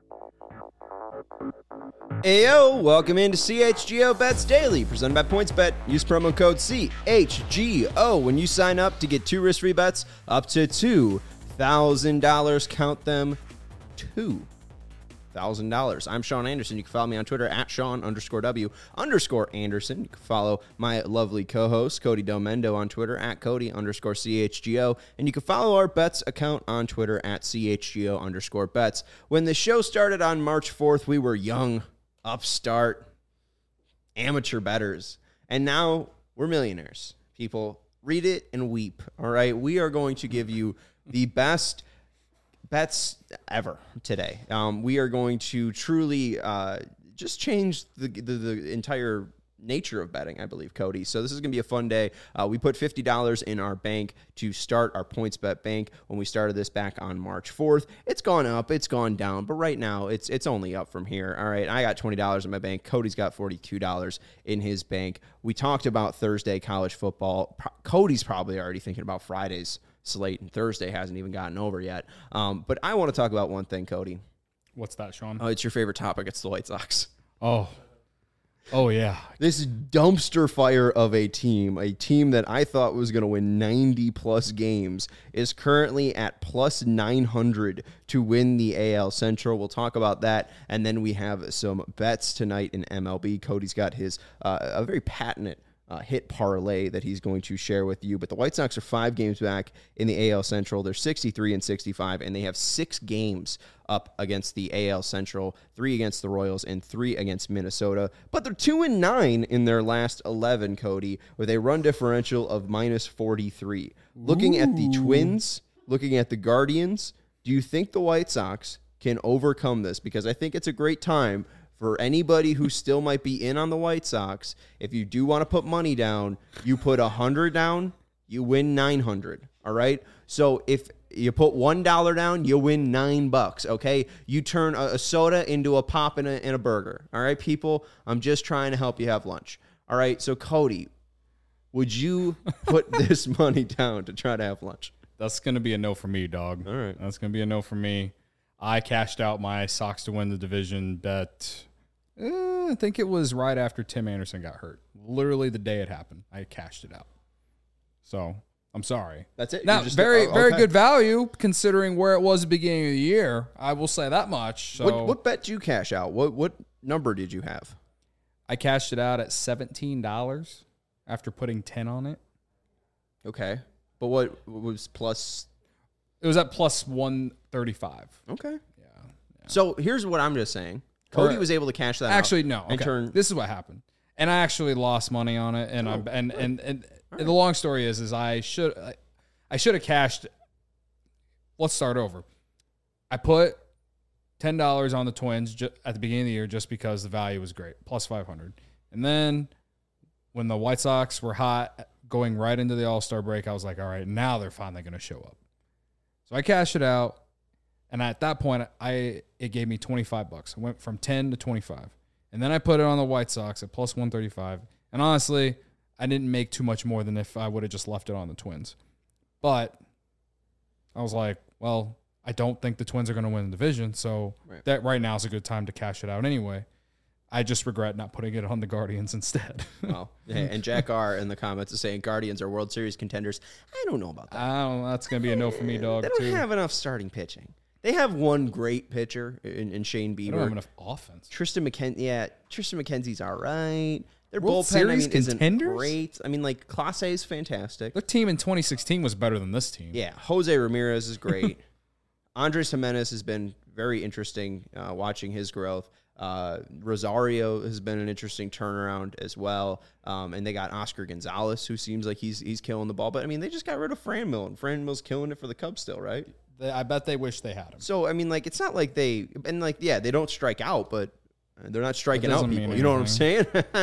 Ayo, welcome into CHGO Bets Daily, presented by PointsBet. Use promo code CHGO when you sign up to get 2 risk-free bets up to $2,000. Count them, $2,000. I'm Sean Anderson. You can follow me on Twitter at Sean_W_Anderson. You can follow my lovely co-host, Cody Domendo, on Twitter at Cody_CHGO. And you can follow our bets account on Twitter at CHGO_bets. When the show started on March 4th, we were young, upstart, amateur bettors. And now we're millionaires. People, read it and weep. All right. We are going to give you the best bets ever today. We are going to truly just change the entire nature of betting, I believe, Cody. So this is going to be a fun day. We put $50 in our bank to start our PointsBet bank when we started this back on March 4th. It's gone up, it's gone down, but right now it's only up from here. All right, I got $20 in my bank. Cody's got $42 in his bank. We talked about Thursday college football. Cody's probably already thinking about Friday's slate, and Thursday hasn't even gotten over yet. But I want to talk about one thing, Cody. What's that, Sean? Oh, it's your favorite topic. It's the White Sox. Oh, yeah. This dumpster fire of a team that I thought was going to win 90-plus games, is currently at plus 900 to win the AL Central. We'll talk about that, and then we have some bets tonight in MLB. Cody's got his a very patented hit parlay that he's going to share with you. But the White Sox are 5 games back in the AL Central. They're 63-65, and they have 6 games up against the AL Central, 3 against the Royals and 3 against Minnesota. But they're 2-9 in their last 11, Cody, with a run differential of minus 43. Looking at the Twins, looking at the Guardians, do you think the White Sox can overcome this? Because I think it's a great time for anybody who still might be in on the White Sox. If you do want to put money down, you put 100 down, you win 900. All right. So if you put $1 down, you win $9. Okay. You turn a soda into a pop and a burger. All right, people. I'm just trying to help you have lunch. All right. So Cody, would you put this money down to try to have lunch? That's going to be a no for me, dog. All right. That's going to be a no for me. I cashed out my Sox to win the division bet. I think it was right after Tim Anderson got hurt. Literally the day it happened, I cashed it out. So I'm sorry. That's it. Now, very good value considering where it was at the beginning of the year. I will say that much. So what bet did you cash out? What number did you have? I cashed it out at $17 after putting 10 on it. Okay, but what was plus? It was at plus 135. Okay. Yeah. So here's what I'm just saying. Cody was able to cash that out. Actually, no. Okay. This is what happened. And I actually lost money on it. And the long story is I should have cashed. Let's start over. I put $10 on the Twins at the beginning of the year just because the value was great, plus 500. And then when the White Sox were hot going right into the All-Star break, I was like, all right, now they're finally going to show up. So I cashed it out, and at that point, it gave me $25. I went from 10 to 25, and then I put it on the White Sox at plus 135. And honestly, I didn't make too much more than if I would have just left it on the Twins. But I was like, well, I don't think the Twins are going to win the division, so that right now is a good time to cash it out anyway. I just regret not putting it on the Guardians instead. Well, and Jack R. in the comments is saying Guardians are World Series contenders. I don't know about that. That's going to be a no for me, dog. They don't have enough starting pitching. They have one great pitcher in Shane Bieber. They don't have enough offense. Tristan McKenzie's all right. Their World bullpen, Series contenders? Isn't great. I mean, like, Clase is fantastic. Their team in 2016 was better than this team. Yeah, Jose Ramirez is great. Andres Jimenez has been very interesting watching his growth. Rosario has been an interesting turnaround as well. And they got Oscar Gonzalez, who seems like he's killing the ball. But, I mean, they just got rid of Franmil, and Franmil's killing it for the Cubs still, right? I bet they wish they had him. So, I mean, like, it's not like they don't strike out, but they're not striking out people. You know what I'm saying?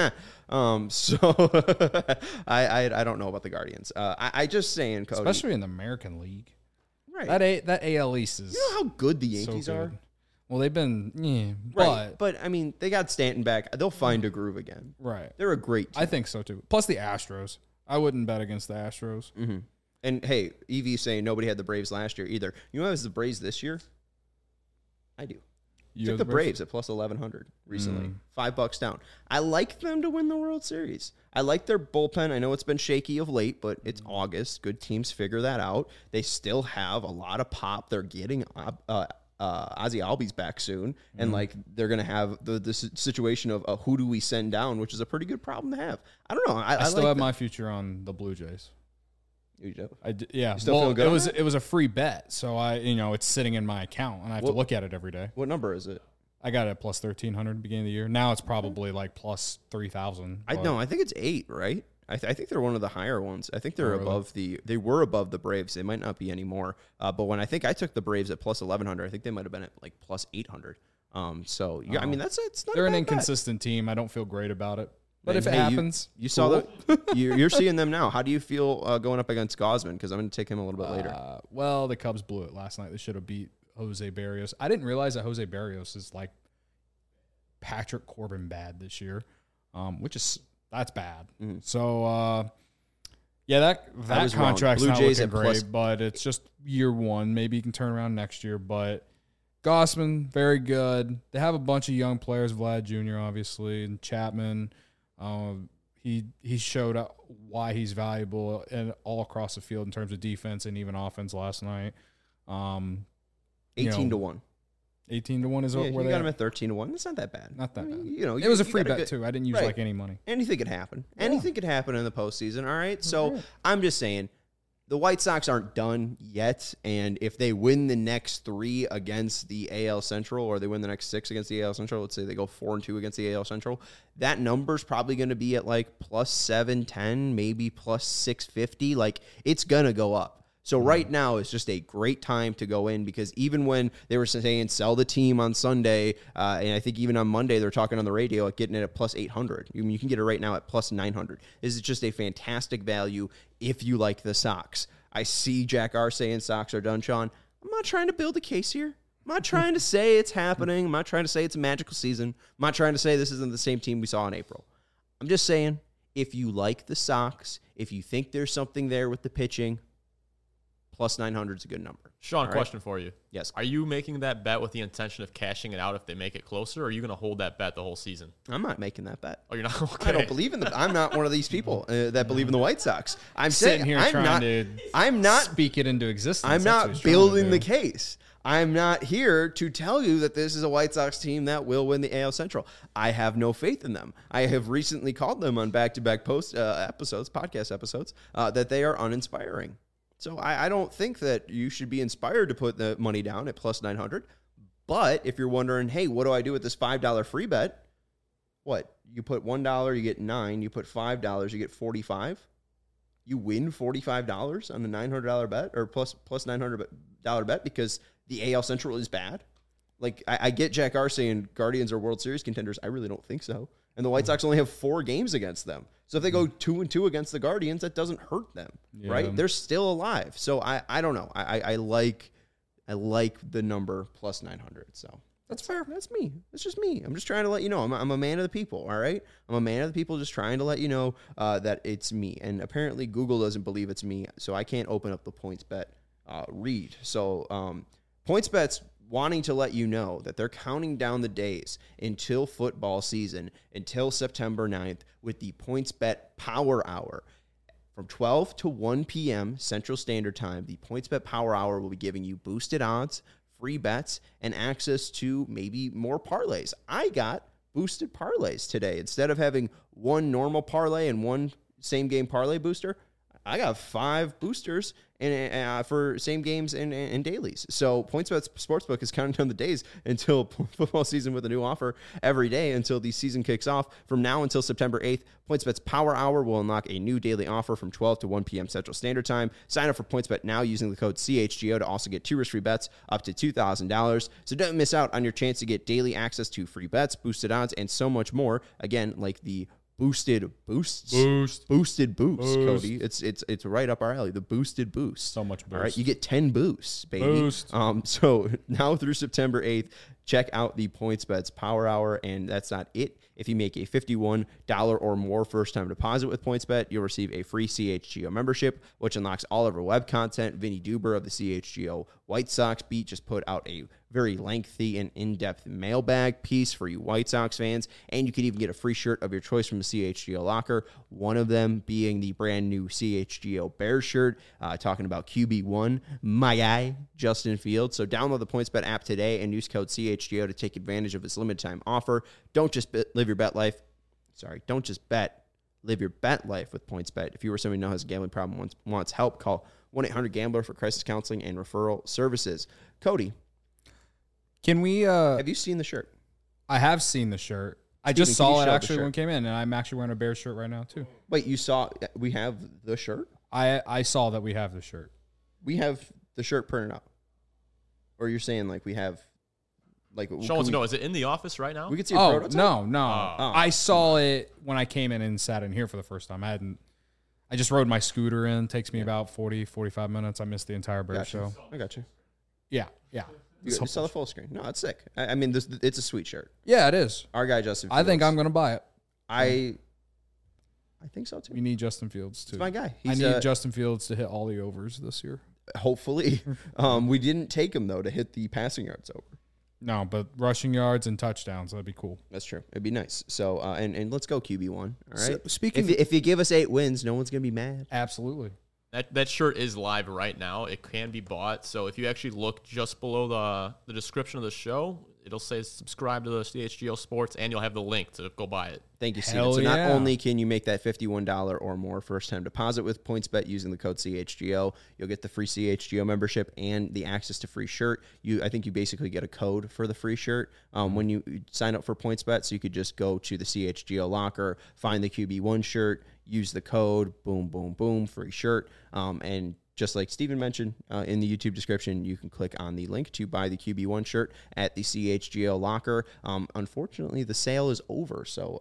So, I don't know about the Guardians. I just saying, Cody. Especially in the American League. Right. That AL East is. You know how good the Yankees are? Well, they've been, right. But I mean, they got Stanton back. They'll find a groove again. Right. They're a great team. I think so too. Plus the Astros. I wouldn't bet against the Astros. Mm-hmm. And hey, Evie's saying nobody had the Braves last year either. You know who has the Braves this year? I do. You Took the Braves at plus 1,100 recently. $5 down. I like them to win the World Series. I like their bullpen. I know it's been shaky of late, but it's August. Good teams figure that out. They still have a lot of pop. They're getting Ozzy Albies back soon, and like they're gonna have the situation of who do we send down, which is a pretty good problem to have. I don't know. I still like have my future on the Blue Jays. You do? Yeah. You still feel good? It was a free bet, so it's sitting in my account, and I have to look at it every day. What number is it? I got it at plus 1,300 at the beginning of the year. Now it's probably like plus 3,000. I think it's 8, right? I think they're one of the higher ones. I think they're they were above the Braves. They might not be anymore. But when I think I took the Braves at plus 1,100, I think they might have been at like plus 800. So yeah, I mean it's not. They're a an bad inconsistent team. I don't feel great about it. But And if it hey, happens, you saw you're seeing them now. How do you feel going up against Gausman? Because I'm going to take him a little bit later. Well, the Cubs blew it last night. They should have beat Jose Barrios. I didn't realize that Jose Barrios is like Patrick Corbin bad this year, that's bad. Mm-hmm. So yeah, that contract's not looking great, but it's just year one. Maybe you can turn around next year. But Gausman, very good. They have a bunch of young players, Vlad Jr. obviously, and Chapman. He showed why he's valuable and all across the field in terms of defense and even offense last night. 18 to 1. 18 to 1 is where you they got him at 13 to 1. That's not that bad. Not that bad. It was a free bet too. I didn't use like any money. Anything could happen. Yeah. Anything could happen in the postseason. All right. So I'm just saying the White Sox aren't done yet. And if they win the next 3 against the AL Central, or they win the next 6 against the AL Central, let's say they go 4-2 against the AL Central, that number's probably going to be at like plus 710, maybe plus 650. Like it's going to go up. So right now is just a great time to go in, because even when they were saying sell the team on Sunday, and I think even on Monday they're talking on the radio at getting it at plus 800. You can get it right now at plus 900. This is just a fantastic value if you like the Sox. I see Jack R saying Sox are done, Sean. I'm not trying to build a case here. I'm not trying to say it's happening. I'm not trying to say it's a magical season. I'm not trying to say this isn't the same team we saw in April. I'm just saying if you like the Sox, if you think there's something there with the pitching, plus 900 is a good number. Sean, question for you. Yes. Are you making that bet with the intention of cashing it out if they make it closer, or are you going to hold that bet the whole season? I'm not making that bet. Oh, you're not? Okay. I don't believe in them. I'm not one of these people that believe in the White Sox. I'm sitting here I'm not speak it into existence. I'm not building the case. I'm not here to tell you that this is a White Sox team that will win the AL Central. I have no faith in them. I have recently called them on back-to-back podcast episodes, that they are uninspiring. So I don't think that you should be inspired to put the money down at plus 900. But if you're wondering, hey, what do I do with this $5 free bet? What? You put $1, you get 9. You put $5, you get 45. You win $45 on a $900 bet, or plus $900 bet, because the AL Central is bad. Like, I get Jack R saying Guardians are World Series contenders. I really don't think so. And the White Sox only have 4 games against them. So if they go 2-2 against the Guardians, that doesn't hurt them, right? They're still alive. So I don't know. I like the number plus 900. So that's fair. That's me. That's just me. I'm just trying to let you know. I'm a man of the people. All right. I'm a man of the people, just trying to let you know that it's me. And apparently Google doesn't believe it's me, so I can't open up the PointsBet read. So PointsBet's wanting to let you know that they're counting down the days until football season, until September 9th, with the PointsBet Power Hour. From 12 to 1 p.m. Central Standard Time, the PointsBet Power Hour will be giving you boosted odds, free bets, and access to maybe more parlays. I got boosted parlays today. Instead of having one normal parlay and one same-game parlay booster, I got 5 boosters for same games and dailies. So PointsBet Sportsbook is counting down the days until football season with a new offer every day until the season kicks off. From now until September 8th, PointsBet's Power Hour will unlock a new daily offer from 12 to 1 p.m. Central Standard Time. Sign up for PointsBet now using the code CHGO to also get 2 risk-free bets up to $2,000. So don't miss out on your chance to get daily access to free bets, boosted odds, and so much more. Again, like the boosted boost, Cody. It's right up our alley. The boosted boost. So much boost. All right, you get 10 boosts, baby. Boost. So now through September 8th, check out the PointsBet's Power Hour, and that's not it. If you make a $51 or more first-time deposit with PointsBet, you'll receive a free CHGO membership, which unlocks all of our web content. Vinny Duber of the CHGO White Sox Beat just put out a very lengthy and in-depth mailbag piece for you White Sox fans, and you could even get a free shirt of your choice from the CHGO locker, one of them being the brand new CHGO Bears shirt, talking about QB1, my guy, Justin Fields. So download the PointsBet app today and use code CHGO to take advantage of this limited time offer. Don't just live your bet life. Don't just bet. Live your bet life with PointsBet. If you or somebody who has a gambling problem wants help, call 1-800-GAMBLER for crisis counseling and referral services. Cody, Can we? have you seen the shirt? I have seen the shirt. I Steven, just can you saw it show the actually shirt? when it came in, and I'm actually wearing a Bears shirt right now too. Wait, you saw we have the shirt? I saw that we have the shirt. We have the shirt printed out. Or you're saying like we have like Sean wants to know, is it in the office right now? we could see a Oh prototype? no! Oh. I saw it when I came in and sat in here for the first time. I just rode my scooter in. Takes me about 40, 45 minutes. I missed the entire Bears Gotcha. show. I got you. Yeah. You saw the full screen. No, it's sick. I mean, it's a sweet shirt. Yeah, it is. Our guy Justin I think Fields, I'm going to buy it. I think so too. We need Justin Fields too. It's my guy. I He's need Justin Fields to hit all the overs this year. hopefully. We didn't take him though to hit the passing yards over. No, but rushing yards and touchdowns, that'd be cool. That's true. It'd be nice. So and let's go QB1. All right. So, speaking if you give us 8 wins, no one's gonna be mad. Absolutely. That shirt is live right now. It can be bought. So if you actually look just below the description of the show, it'll say subscribe to the CHGO Sports, and you'll have the link to go buy it. Thank you, Steven. Hell So not yeah. only can you make that $51 or more first-time deposit with PointsBet using the code CHGO, you'll get the free CHGO membership and the access to free shirt. I think you basically get a code for the free shirt when you sign up for PointsBet. So you could just go to the CHGO locker, find the QB1 shirt, use the code, boom, boom, boom, free shirt, and just like Steven mentioned in the YouTube description, you can click on the link to buy the QB1 shirt at the CHGO locker. Unfortunately, the sale is over, so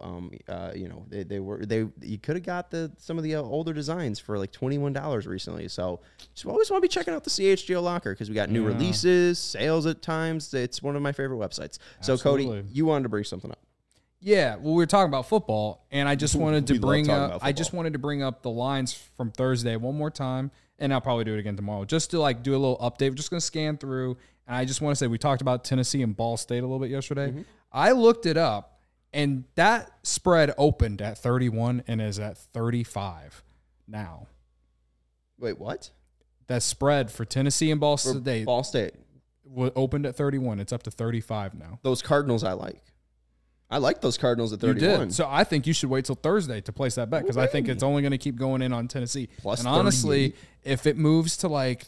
you could have got some of the older designs for like $21 recently. So just always want to be checking out the CHGO locker because we got new releases, sales at times. It's one of my favorite websites. So Absolutely. Cody, you wanted to bring something up. Yeah, well, we were talking about football, and I just wanted to We love bring talking up. about I just football. wanted to bring up the lines from Thursday one more time, and I'll probably do it again tomorrow, just to like do a little update. We're just gonna scan through, and I just want to say we talked about Tennessee and Ball State a little bit yesterday. Mm-hmm. I looked it up, and that spread opened at 31 and is at 35 now. Wait, what? That spread for Tennessee and Ball For State Ball State. opened at 31. It's up to 35 now. Those Cardinals I like. I like those Cardinals at You 31. did. So I think you should wait till Thursday to place that bet because I think it's only going to keep going in on Tennessee. Plus and honestly, 38. if it moves to like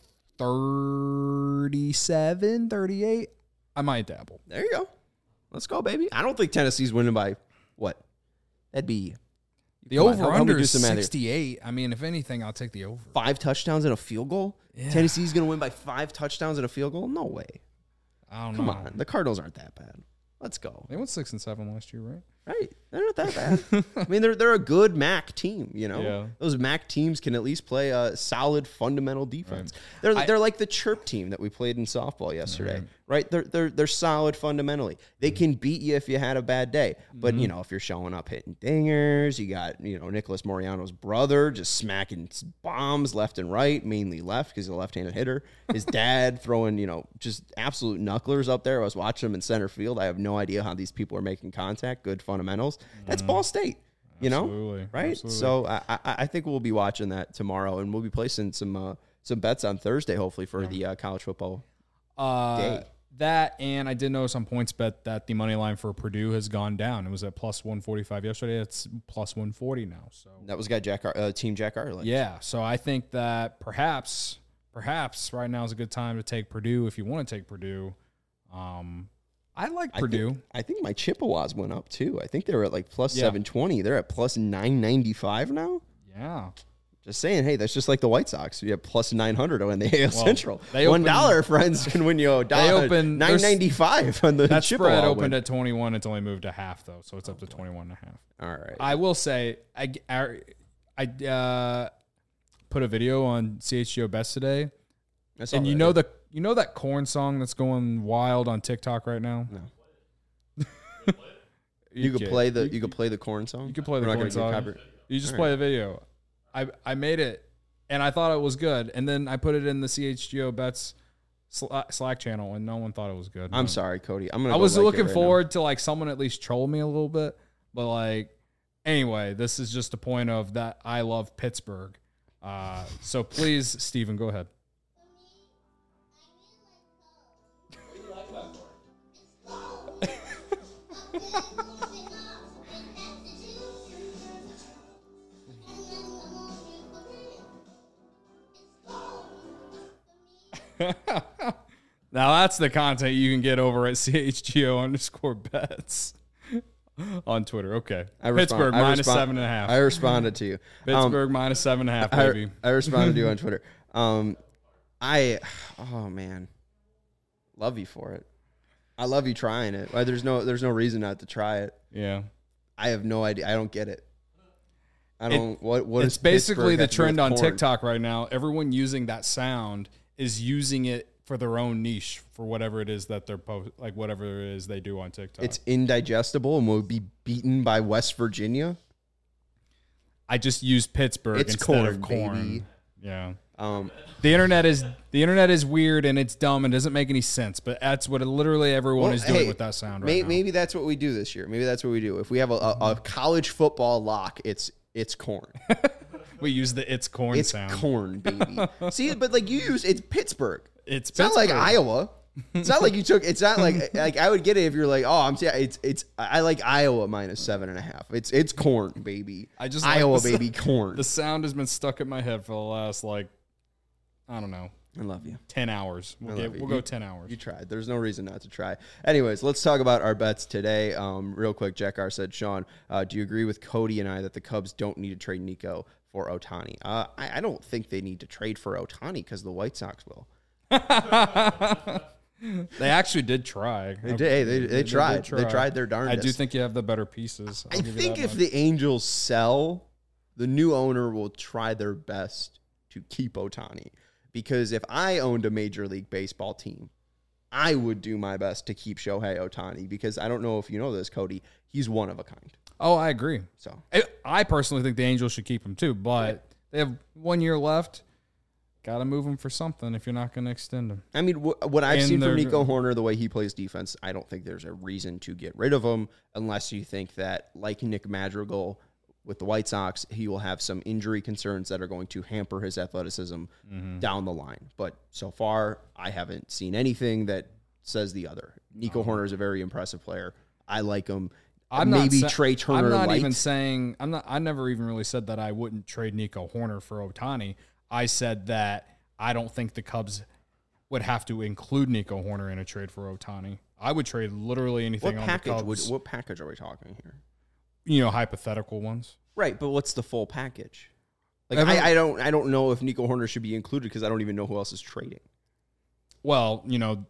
37, 38, I might dabble. There you go. Let's go, baby. I don't think Tennessee's winning by what? That'd be The come on, help me over-under do is some math here. 68. I mean, if anything, I'll take the over. 5 touchdowns and a field goal. Yeah. Tennessee's going to win by 5 touchdowns and a field goal. No way. I don't Come know. on. The Cardinals aren't that bad. Let's go. They went 6 and 7 last year, right? Right. They're not that bad. I mean, they're a good MAC team, you know? Yeah. Those MAC teams can at least play a solid fundamental defense. They're like the chirp team that we played in softball yesterday, right? They're solid fundamentally. They can beat you if you had a bad day. But, you know, if you're showing up hitting dingers, you got, you know, Nicholas Moriano's brother just smacking bombs left and right, mainly left because he's a left-handed hitter. His dad throwing, you know, just absolute knucklers up there. I was watching him in center field. I have no idea how these people are making contact. Good fundamentals. That's Ball State, you know, Absolutely. right? Absolutely. So I think we'll be watching that tomorrow, and we'll be placing some bets on Thursday, hopefully for the college football. Day. That, and I did notice on PointsBet that the money line for Purdue has gone down. It was at plus 145 yesterday. It's plus 140 now. So That was guy Team Jack Ireland. yeah, so I think that perhaps right now is a good time to take Purdue if you want to take Purdue. I like Purdue. I think my Chippewas went up too. I think they were at like plus Yeah. 720. They're at plus 995 now. Yeah. Just saying, hey, that's just like the White Sox. You have plus 900 on the AL Central. they $1 friends can win you a dollar. opened- $9.95 on the That Chippewa spread win. opened at 21. It's only moved to half though, so it's up to 21 and a half. All right. I will say I put a video on CHGO Best today, I saw and that, you know that corn song that's going wild on TikTok right now. No. You could play the corn song. You could play the We're not corn gonna get song. copyright. You just All play the video. I made it, and I thought it was good, and then I put it in the CHGO Bets Slack channel, and no one thought it was good. I'm sorry, Cody. I was looking forward to like someone at least troll me a little bit, but like anyway, this is just a point of that I love Pittsburgh. So please, Steven, go ahead. Now that's the content you can get over at CHGO_bets on Twitter. Okay. Pittsburgh minus 7.5. I responded to you. Pittsburgh minus 7.5, baby. I responded to you on Twitter. Oh man. Love you for it. I love you trying it. There's no reason not to try it. Yeah. I have no idea. I don't get it. I don't what it's basically the trend on TikTok right now. Everyone using that sound is using it for their own niche for whatever it is that they're whatever it is they do on TikTok. It's indigestible and will be beaten by West Virginia. I just used Pittsburgh instead of corn. Baby. Yeah. The internet is weird and it's dumb and doesn't make any sense, but that's what literally everyone is doing with that sound right now. Maybe that's what we do this year. Maybe that's what we do. If we have a college football lock, it's corn. We use the it's corn sound. It's corn, baby. See, but like it's Pittsburgh. It's not like Iowa. It's not like you took. It's not like I would get it if you're like, oh, I like Iowa minus 7.5. It's corn, baby. Iowa, baby, corn. The sound has been stuck in my head for the last I don't know. I love you. 10 hours. We'll go 10 hours. You tried. There's no reason not to try. Anyways, let's talk about our bets today. Real quick, Jackar said, Sean, do you agree with Cody and I that the Cubs don't need to trade Nico for Ohtani? I don't think they need to trade for Ohtani because the White Sox will. They actually did try. They tried. They tried their darndest. I do think you have the better pieces. I think if the Angels sell, the new owner will try their best to keep Ohtani. Because if I owned a Major League Baseball team, I would do my best to keep Shohei Ohtani. Because I don't know if you know this, Cody, he's one of a kind. Oh, I agree. So I personally think the Angels should keep him too, but they have 1 year left. Got to move him for something if you're not going to extend him. I mean, what I've seen from Nico Hoerner, the way he plays defense, I don't think there's a reason to get rid of him unless you think that, like Nick Madrigal with the White Sox, he will have some injury concerns that are going to hamper his athleticism down the line. But so far, I haven't seen anything that says the other. Nico Hoerner is a very impressive player. I like him. Trey Turner. I'm not even saying I never even really said that I wouldn't trade Nico Hoerner for Ohtani. I said that I don't think the Cubs would have to include Nico Hoerner in a trade for Ohtani. I would trade literally anything on the Cubs. What package are we talking here? Hypothetical ones. Right, but what's the full package? Like I don't know if Nico Hoerner should be included because I don't even know who else is trading. Well,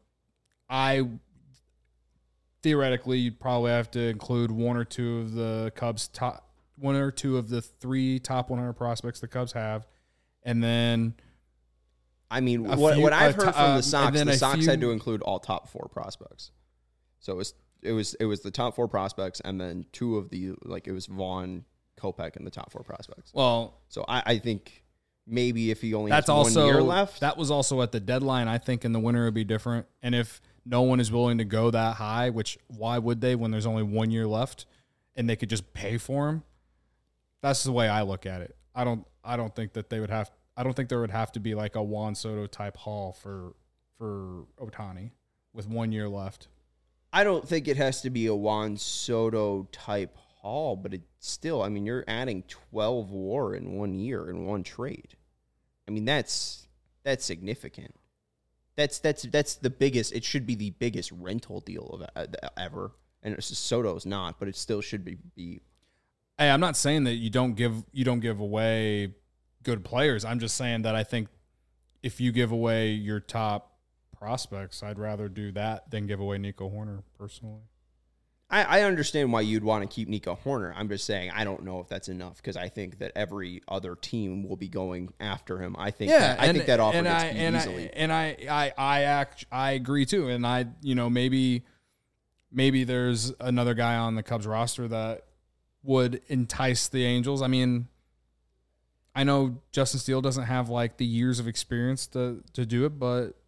theoretically you'd probably have to include one or two of the Cubs one or two of the 3 top 100 prospects the Cubs have. And then, I mean, what I've heard from the Sox had to include all top 4 prospects. So it was the top 4 prospects, and then 2 of the it was Vaughn, Kopech, and the top 4 prospects. Well, so I think maybe if he only has 1 year left, that was also at the deadline. I think in the winter it would be different. And if no one is willing to go that high, which why would they when there's only 1 year left, and they could just pay for him? That's the way I look at it. I don't think that they would have. I don't think there would have to be like a Juan Soto type haul for Ohtani with 1 year left. I don't think it has to be a Juan Soto type haul, but it's still. I mean, you're adding 12 WAR in 1 year in one trade. I mean, that's significant. That's the biggest. It should be the biggest rental deal of ever. And Soto's not, but it still should be. Hey, I'm not saying that you don't give away good players. I'm just saying that I think if you give away your top prospects, I'd rather do that than give away Nico Hoerner personally. I understand why you'd want to keep Nico Hoerner. I'm just saying I don't know if that's enough because I think that every other team will be going after him. I think that offer gets beat easily. I agree too. And maybe there's another guy on the Cubs roster that would entice the Angels. I mean, I know Justin Steele doesn't have like the years of experience to do it, but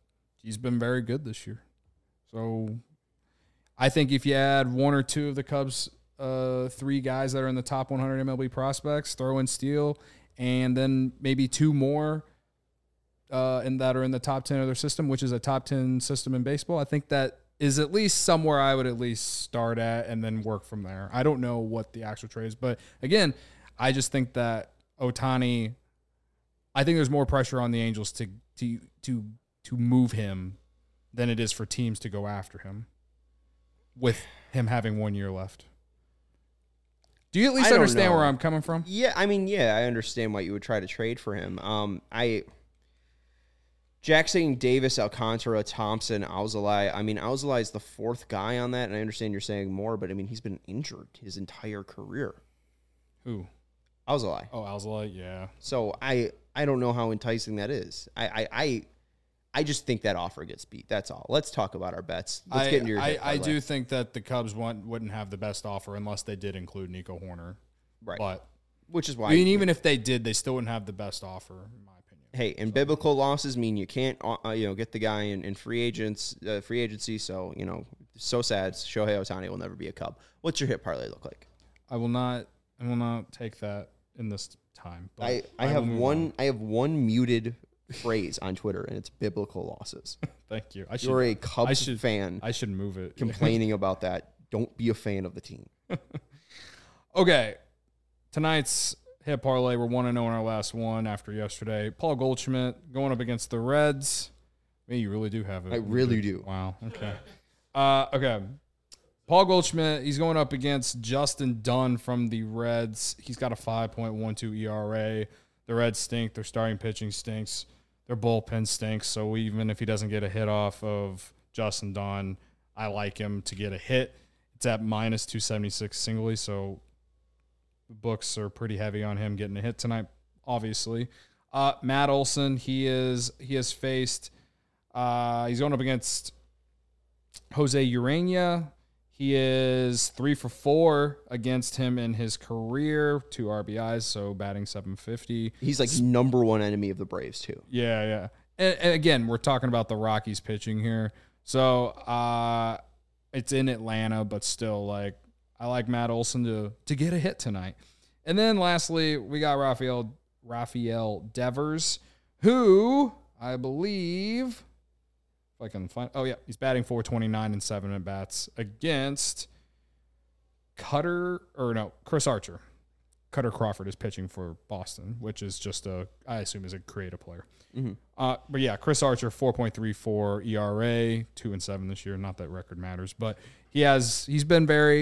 he's been very good this year. So I think if you add one or two of the Cubs' 3 guys that are in the top 100 MLB prospects, throw in Steele, and then maybe 2 more that are in the top 10 of their system, which is a top 10 system in baseball, I think that is at least somewhere I would at least start at and then work from there. I don't know what the actual trade is, but again, I just think that Ohtani, I think there's more pressure on the Angels to move him than it is for teams to go after him with him having 1 year left. Do you at least understand where I'm coming from? Yeah, I mean, I understand why you would try to trade for him. Jack saying Davis, Alcantara, Thompson, Alzolay. I mean, Alzolay is the 4th guy on that, and I understand you're saying more, but I mean, he's been injured his entire career. Who? Alzolay. Oh, Alzolay, yeah. So I don't know how enticing that is. I just think that offer gets beat. That's all. Let's talk about our bets. Let's get into your hit I do think that the Cubs wouldn't have the best offer unless they did include Nico Horner. Right. But which is why I mean, even if they did, they still wouldn't have the best offer, in my opinion. Hey, and biblical losses mean you can't get the guy in free agency. So, so sad. Shohei Ohtani will never be a Cub. What's your hit parlay look like? I will not take that in this time. But I have one muted phrase on Twitter, and it's biblical losses. Thank you. You're a Cubs fan. I should move it. Complaining about that. Don't be a fan of the team. Okay. Tonight's hit parlay, we're 1-0 in our last one after yesterday. Paul Goldschmidt going up against the Reds. Man, you really do have it. I really do. Wow. Okay. Okay. Paul Goldschmidt, he's going up against Justin Dunn from the Reds. He's got a 5.12 ERA. The Reds stink. Their starting pitching stinks. Their bullpen stinks. So even if he doesn't get a hit off of Justin Dunn, I like him to get a hit. It's at minus 276 singly, so the books are pretty heavy on him getting a hit tonight, obviously. Matt Olson, he has faced, he's going up against Jose Urania. He is 3 for 4 against him in his career, 2 RBIs, so batting .750. He's like number 1 enemy of the Braves, too. Yeah. And again, we're talking about the Rockies pitching here. So it's in Atlanta, but still, like, I like Matt Olson to get a hit tonight. And then lastly, we got Rafael Devers, who I believe, if I can find, he's batting .429 and 7 at-bats against Chris Archer. Cutter Crawford is pitching for Boston, which is just I assume is a creative player. Mm-hmm. But yeah, Chris Archer, 4.34 ERA, 2-7 this year. Not that record matters, but he's been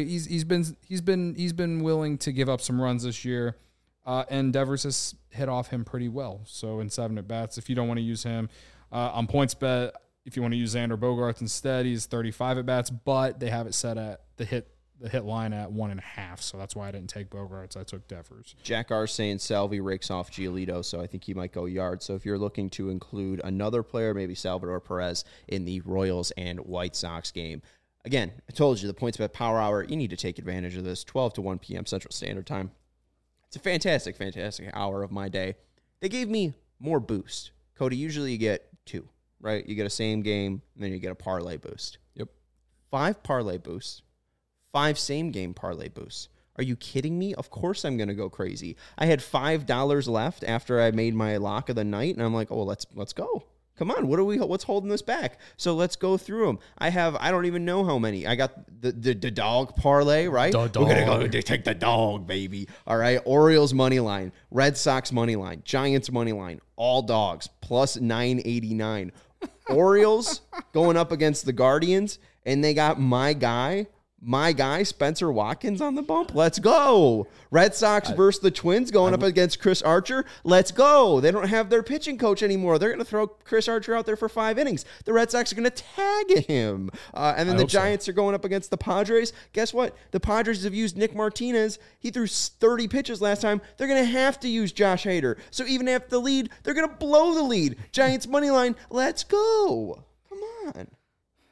willing to give up some runs this year, and Devers has hit off him pretty well. So in 7 at bats, if you don't want to use him on PointsBet, if you want to use Xander Bogaerts instead, he's 35 at bats, but they have it set at the hit line at 1.5, so that's why I didn't take Bogaerts. I took Devers. Jack R saying Salvi rakes off Giolito, so I think he might go yard. So if you're looking to include another player, maybe Salvador Perez in the Royals and White Sox game. Again, I told you, the PointsBet Power Hour, you need to take advantage of this, 12 to 1 p.m. Central Standard Time. It's a fantastic, fantastic hour of my day. They gave me more boost. Cody, usually you get 2, right? You get a same game, and then you get a parlay boost. Yep. 5 parlay boosts. 5 same-game parlay boosts. Are you kidding me? Of course I'm going to go crazy. I had $5 left after I made my lock of the night, and I'm like, oh, let's go. Come on, what's holding this back? So let's go through them. I don't even know how many. I got the dog parlay, right? We're going to take the dog, baby. All right, Orioles money line, Red Sox money line, Giants money line, all dogs, plus 989. Orioles going up against the Guardians, and they got my guy, Spencer Watkins on the bump. Let's go. Red Sox versus the Twins going up against Chris Archer. Let's go. They don't have their pitching coach anymore. They're going to throw Chris Archer out there for 5 innings. The Red Sox are going to tag him. And then the Giants are going up against the Padres. Guess what? The Padres have used Nick Martinez. He threw 30 pitches last time. They're going to have to use Josh Hader. So even after the lead, they're going to blow the lead. Giants money line. Let's go. Come on.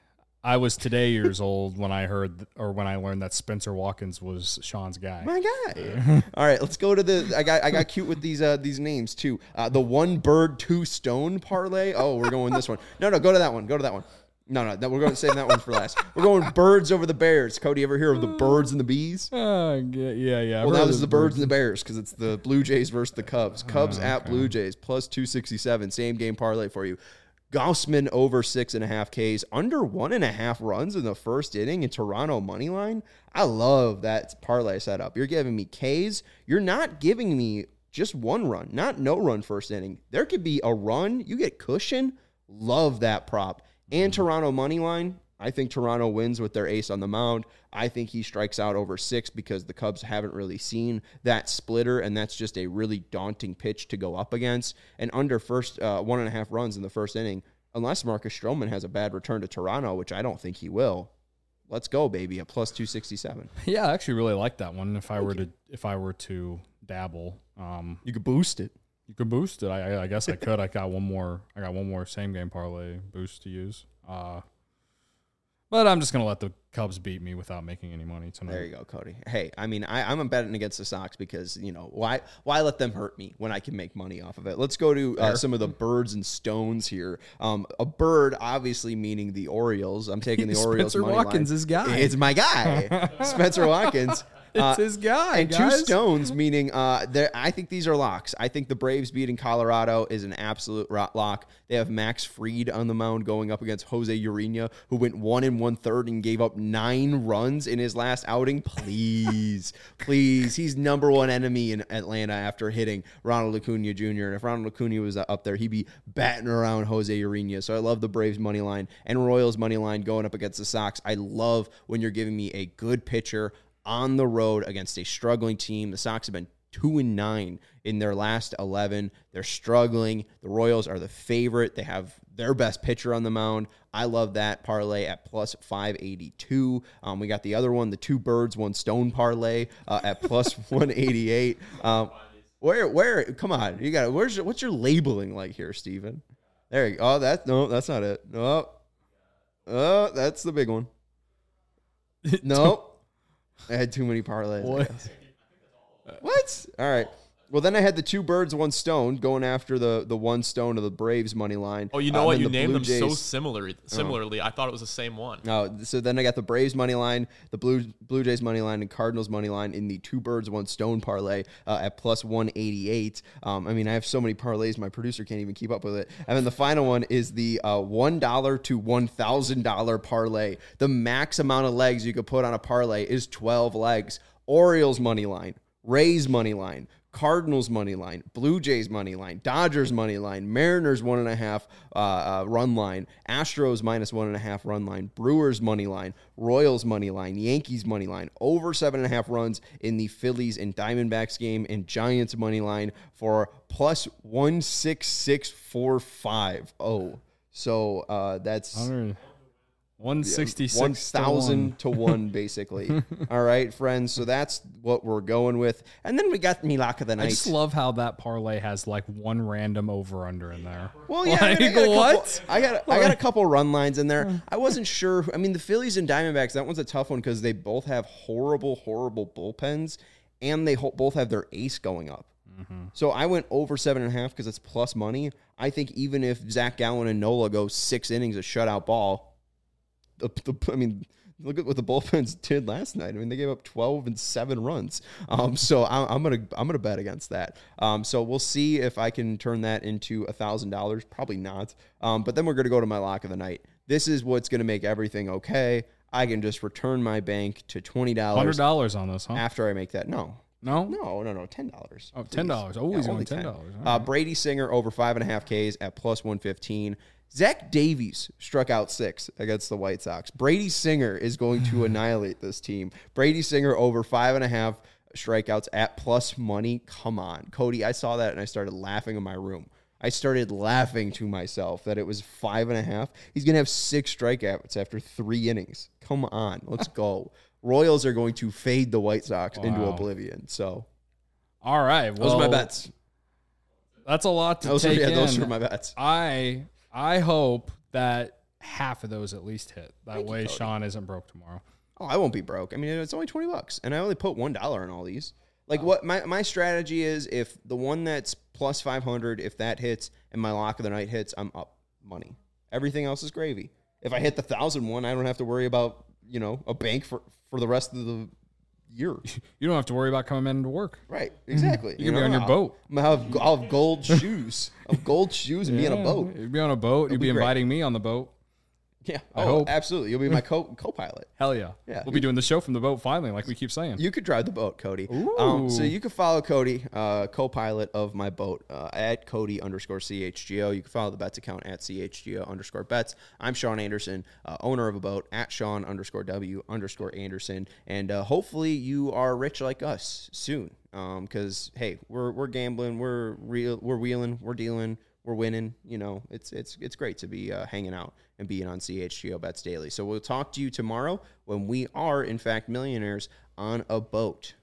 I was today years old when I heard when I learned that Spencer Watkins was Sean's guy. My guy. All right, let's go to the. I got cute with these names too. The 1 bird 2 stone parlay. Oh, we're going this one. No, go to that one. Go to that one. No, we're going to save that one for last. We're going birds over the bears. Cody, ever hear of the birds and the bees? Yeah. Well, now this is the birds and the bears because it's the Blue Jays versus the Cubs. Cubs at Blue Jays plus 267. Same game parlay for you. Gaussman over 6.5 Ks, under 1.5 runs in the first inning in Toronto money line. I love that parlay setup. You're giving me Ks. You're not giving me just 1 run, not no run first inning. There could be a run. You get cushion. Love that prop. And Toronto money line. I think Toronto wins with their ace on the mound. I think he strikes out over 6 because the Cubs haven't really seen that splitter, and that's just a really daunting pitch to go up against. And under 1.5 runs in the first inning, unless Marcus Stroman has a bad return to Toronto, which I don't think he will. Let's go, baby, at plus 267. Yeah, I actually really like that one. If I were to dabble, you could boost it. You could boost it. I guess I could. I got one more same game parlay boost to use. But I'm just gonna let the Cubs beat me without making any money tonight. There you go, Cody. Hey, I mean, I'm betting against the Sox because, why let them hurt me when I can make money off of it? Let's go to some of the birds and stones here. A bird, obviously meaning the Orioles. I'm taking the Orioles. Spencer Watkins is guy. It's my guy, Spencer Watkins. It's his guy, and guys. 2 stones, meaning I think these are locks. I think the Braves beating Colorado is an absolute lock. They have Max Fried on the mound going up against Jose Urena, who went 1 1/3 and gave up 9 runs in his last outing. Please, he's number 1 enemy in Atlanta after hitting Ronald Acuna Jr. And if Ronald Acuna was up there, he'd be batting around Jose Urena. So I love the Braves money line and Royals money line going up against the Sox. I love when you're giving me a good pitcher on the road against a struggling team. The Sox have been 2-9 in their last 11. They're struggling. The Royals are the favorite. They have their best pitcher on the mound. I love that parlay at plus 582. We got the other one, the 2 birds, 1 stone parlay at plus 188. Where? Come on, you got it. What's your labeling like here, Steven? There you go. Oh, that's not it. No. Oh, that's the big one. No. I had too many parlays. What? All right. Well, then I had the 2 birds, 1 stone going after the 1 stone of the Braves money line. Oh, you know what? You named them so similarly. I thought it was the same one. No, so then I got the Braves money line, the Blue Jays money line, and Cardinals money line in the 2 birds, 1 stone parlay at plus 188. I mean, I have so many parlays, my producer can't even keep up with it. And then the final one is the $1 to $1,000 parlay. The max amount of legs you could put on a parlay is 12 legs. Orioles money line, Rays money line, Cardinals money line, Blue Jays money line, Dodgers money line, Mariners 1.5 run line, Astros minus 1.5 run line, Brewers money line, Royals money line, Yankees money line, over 7.5 runs in the Phillies and Diamondbacks game, and Giants money line for plus 16645. Oh, so that's 166 1,000 to 1, basically. All right, friends. So that's what we're going with. And then we got me lock of the night. I just love how that parlay has like 1 random over under in there. Well, yeah, I got a couple run lines in there. I wasn't sure. I mean, the Phillies and Diamondbacks, that one's a tough one because they both have horrible bullpens, and they both have their ace going up. Mm-hmm. So I went over 7.5 because it's plus money. I think even if Zach Gallen and Nola go 6 innings of shutout ball, I mean, look at what the bullpens did last night. I mean, they gave up 12 and 7 runs. So I'm gonna bet against that. So we'll see if I can turn that into $1,000. Probably not. But then we're gonna go to my lock of the night. This is what's gonna make everything okay. I can just return my bank to $20. $100 on this, huh? After I make that, no, $10. Oh, $10. Always going $10. Right. Brady Singer over 5.5 Ks at plus 115. Zach Davies struck out 6 against the White Sox. Brady Singer is going to annihilate this team. Brady Singer over 5.5 strikeouts at plus money. Come on. Cody, I saw that and I started laughing in my room. I started laughing to myself that it was 5.5. He's going to have 6 strikeouts after 3 innings. Come on. Let's go. Royals are going to fade the White Sox into oblivion. So, all right. Well, those are my bets. That's a lot to take in. Those are my bets. I hope that half of those at least hit. That Thank you, way Cody. Sean isn't broke tomorrow. Oh, I won't be broke. I mean, it's only $20, and I only put $1 in all these. Like, what my strategy is, if the one that's plus 500, if that hits and my lock of the night hits, I'm up money. Everything else is gravy. If I hit the 1,000 one, I don't have to worry about, a bank for the rest of the year. You don't have to worry about coming into work. Right, exactly. You can be on your boat. I'll have gold shoes. I'll have gold shoes and be on a boat. You'd be on a boat. You'd be be great. inviting me on the boat. Yeah. I hope. Absolutely. You'll be my co-pilot. Hell yeah. Yeah. We'll be doing the show from the boat finally, like we keep saying. You could drive the boat, Cody. Ooh. So you can follow Cody, co-pilot of my boat, at Cody_CHGO. You can follow the bets account at CHGO_bets. I'm Sean Anderson, owner of a boat, at Sean_W_Anderson. And hopefully you are rich like us soon. Because, hey, we're gambling, we're wheeling, we're dealing, we're winning. It's great to be hanging out and being on CHGO Bets Daily. So we'll talk to you tomorrow when we are, in fact, millionaires on a boat.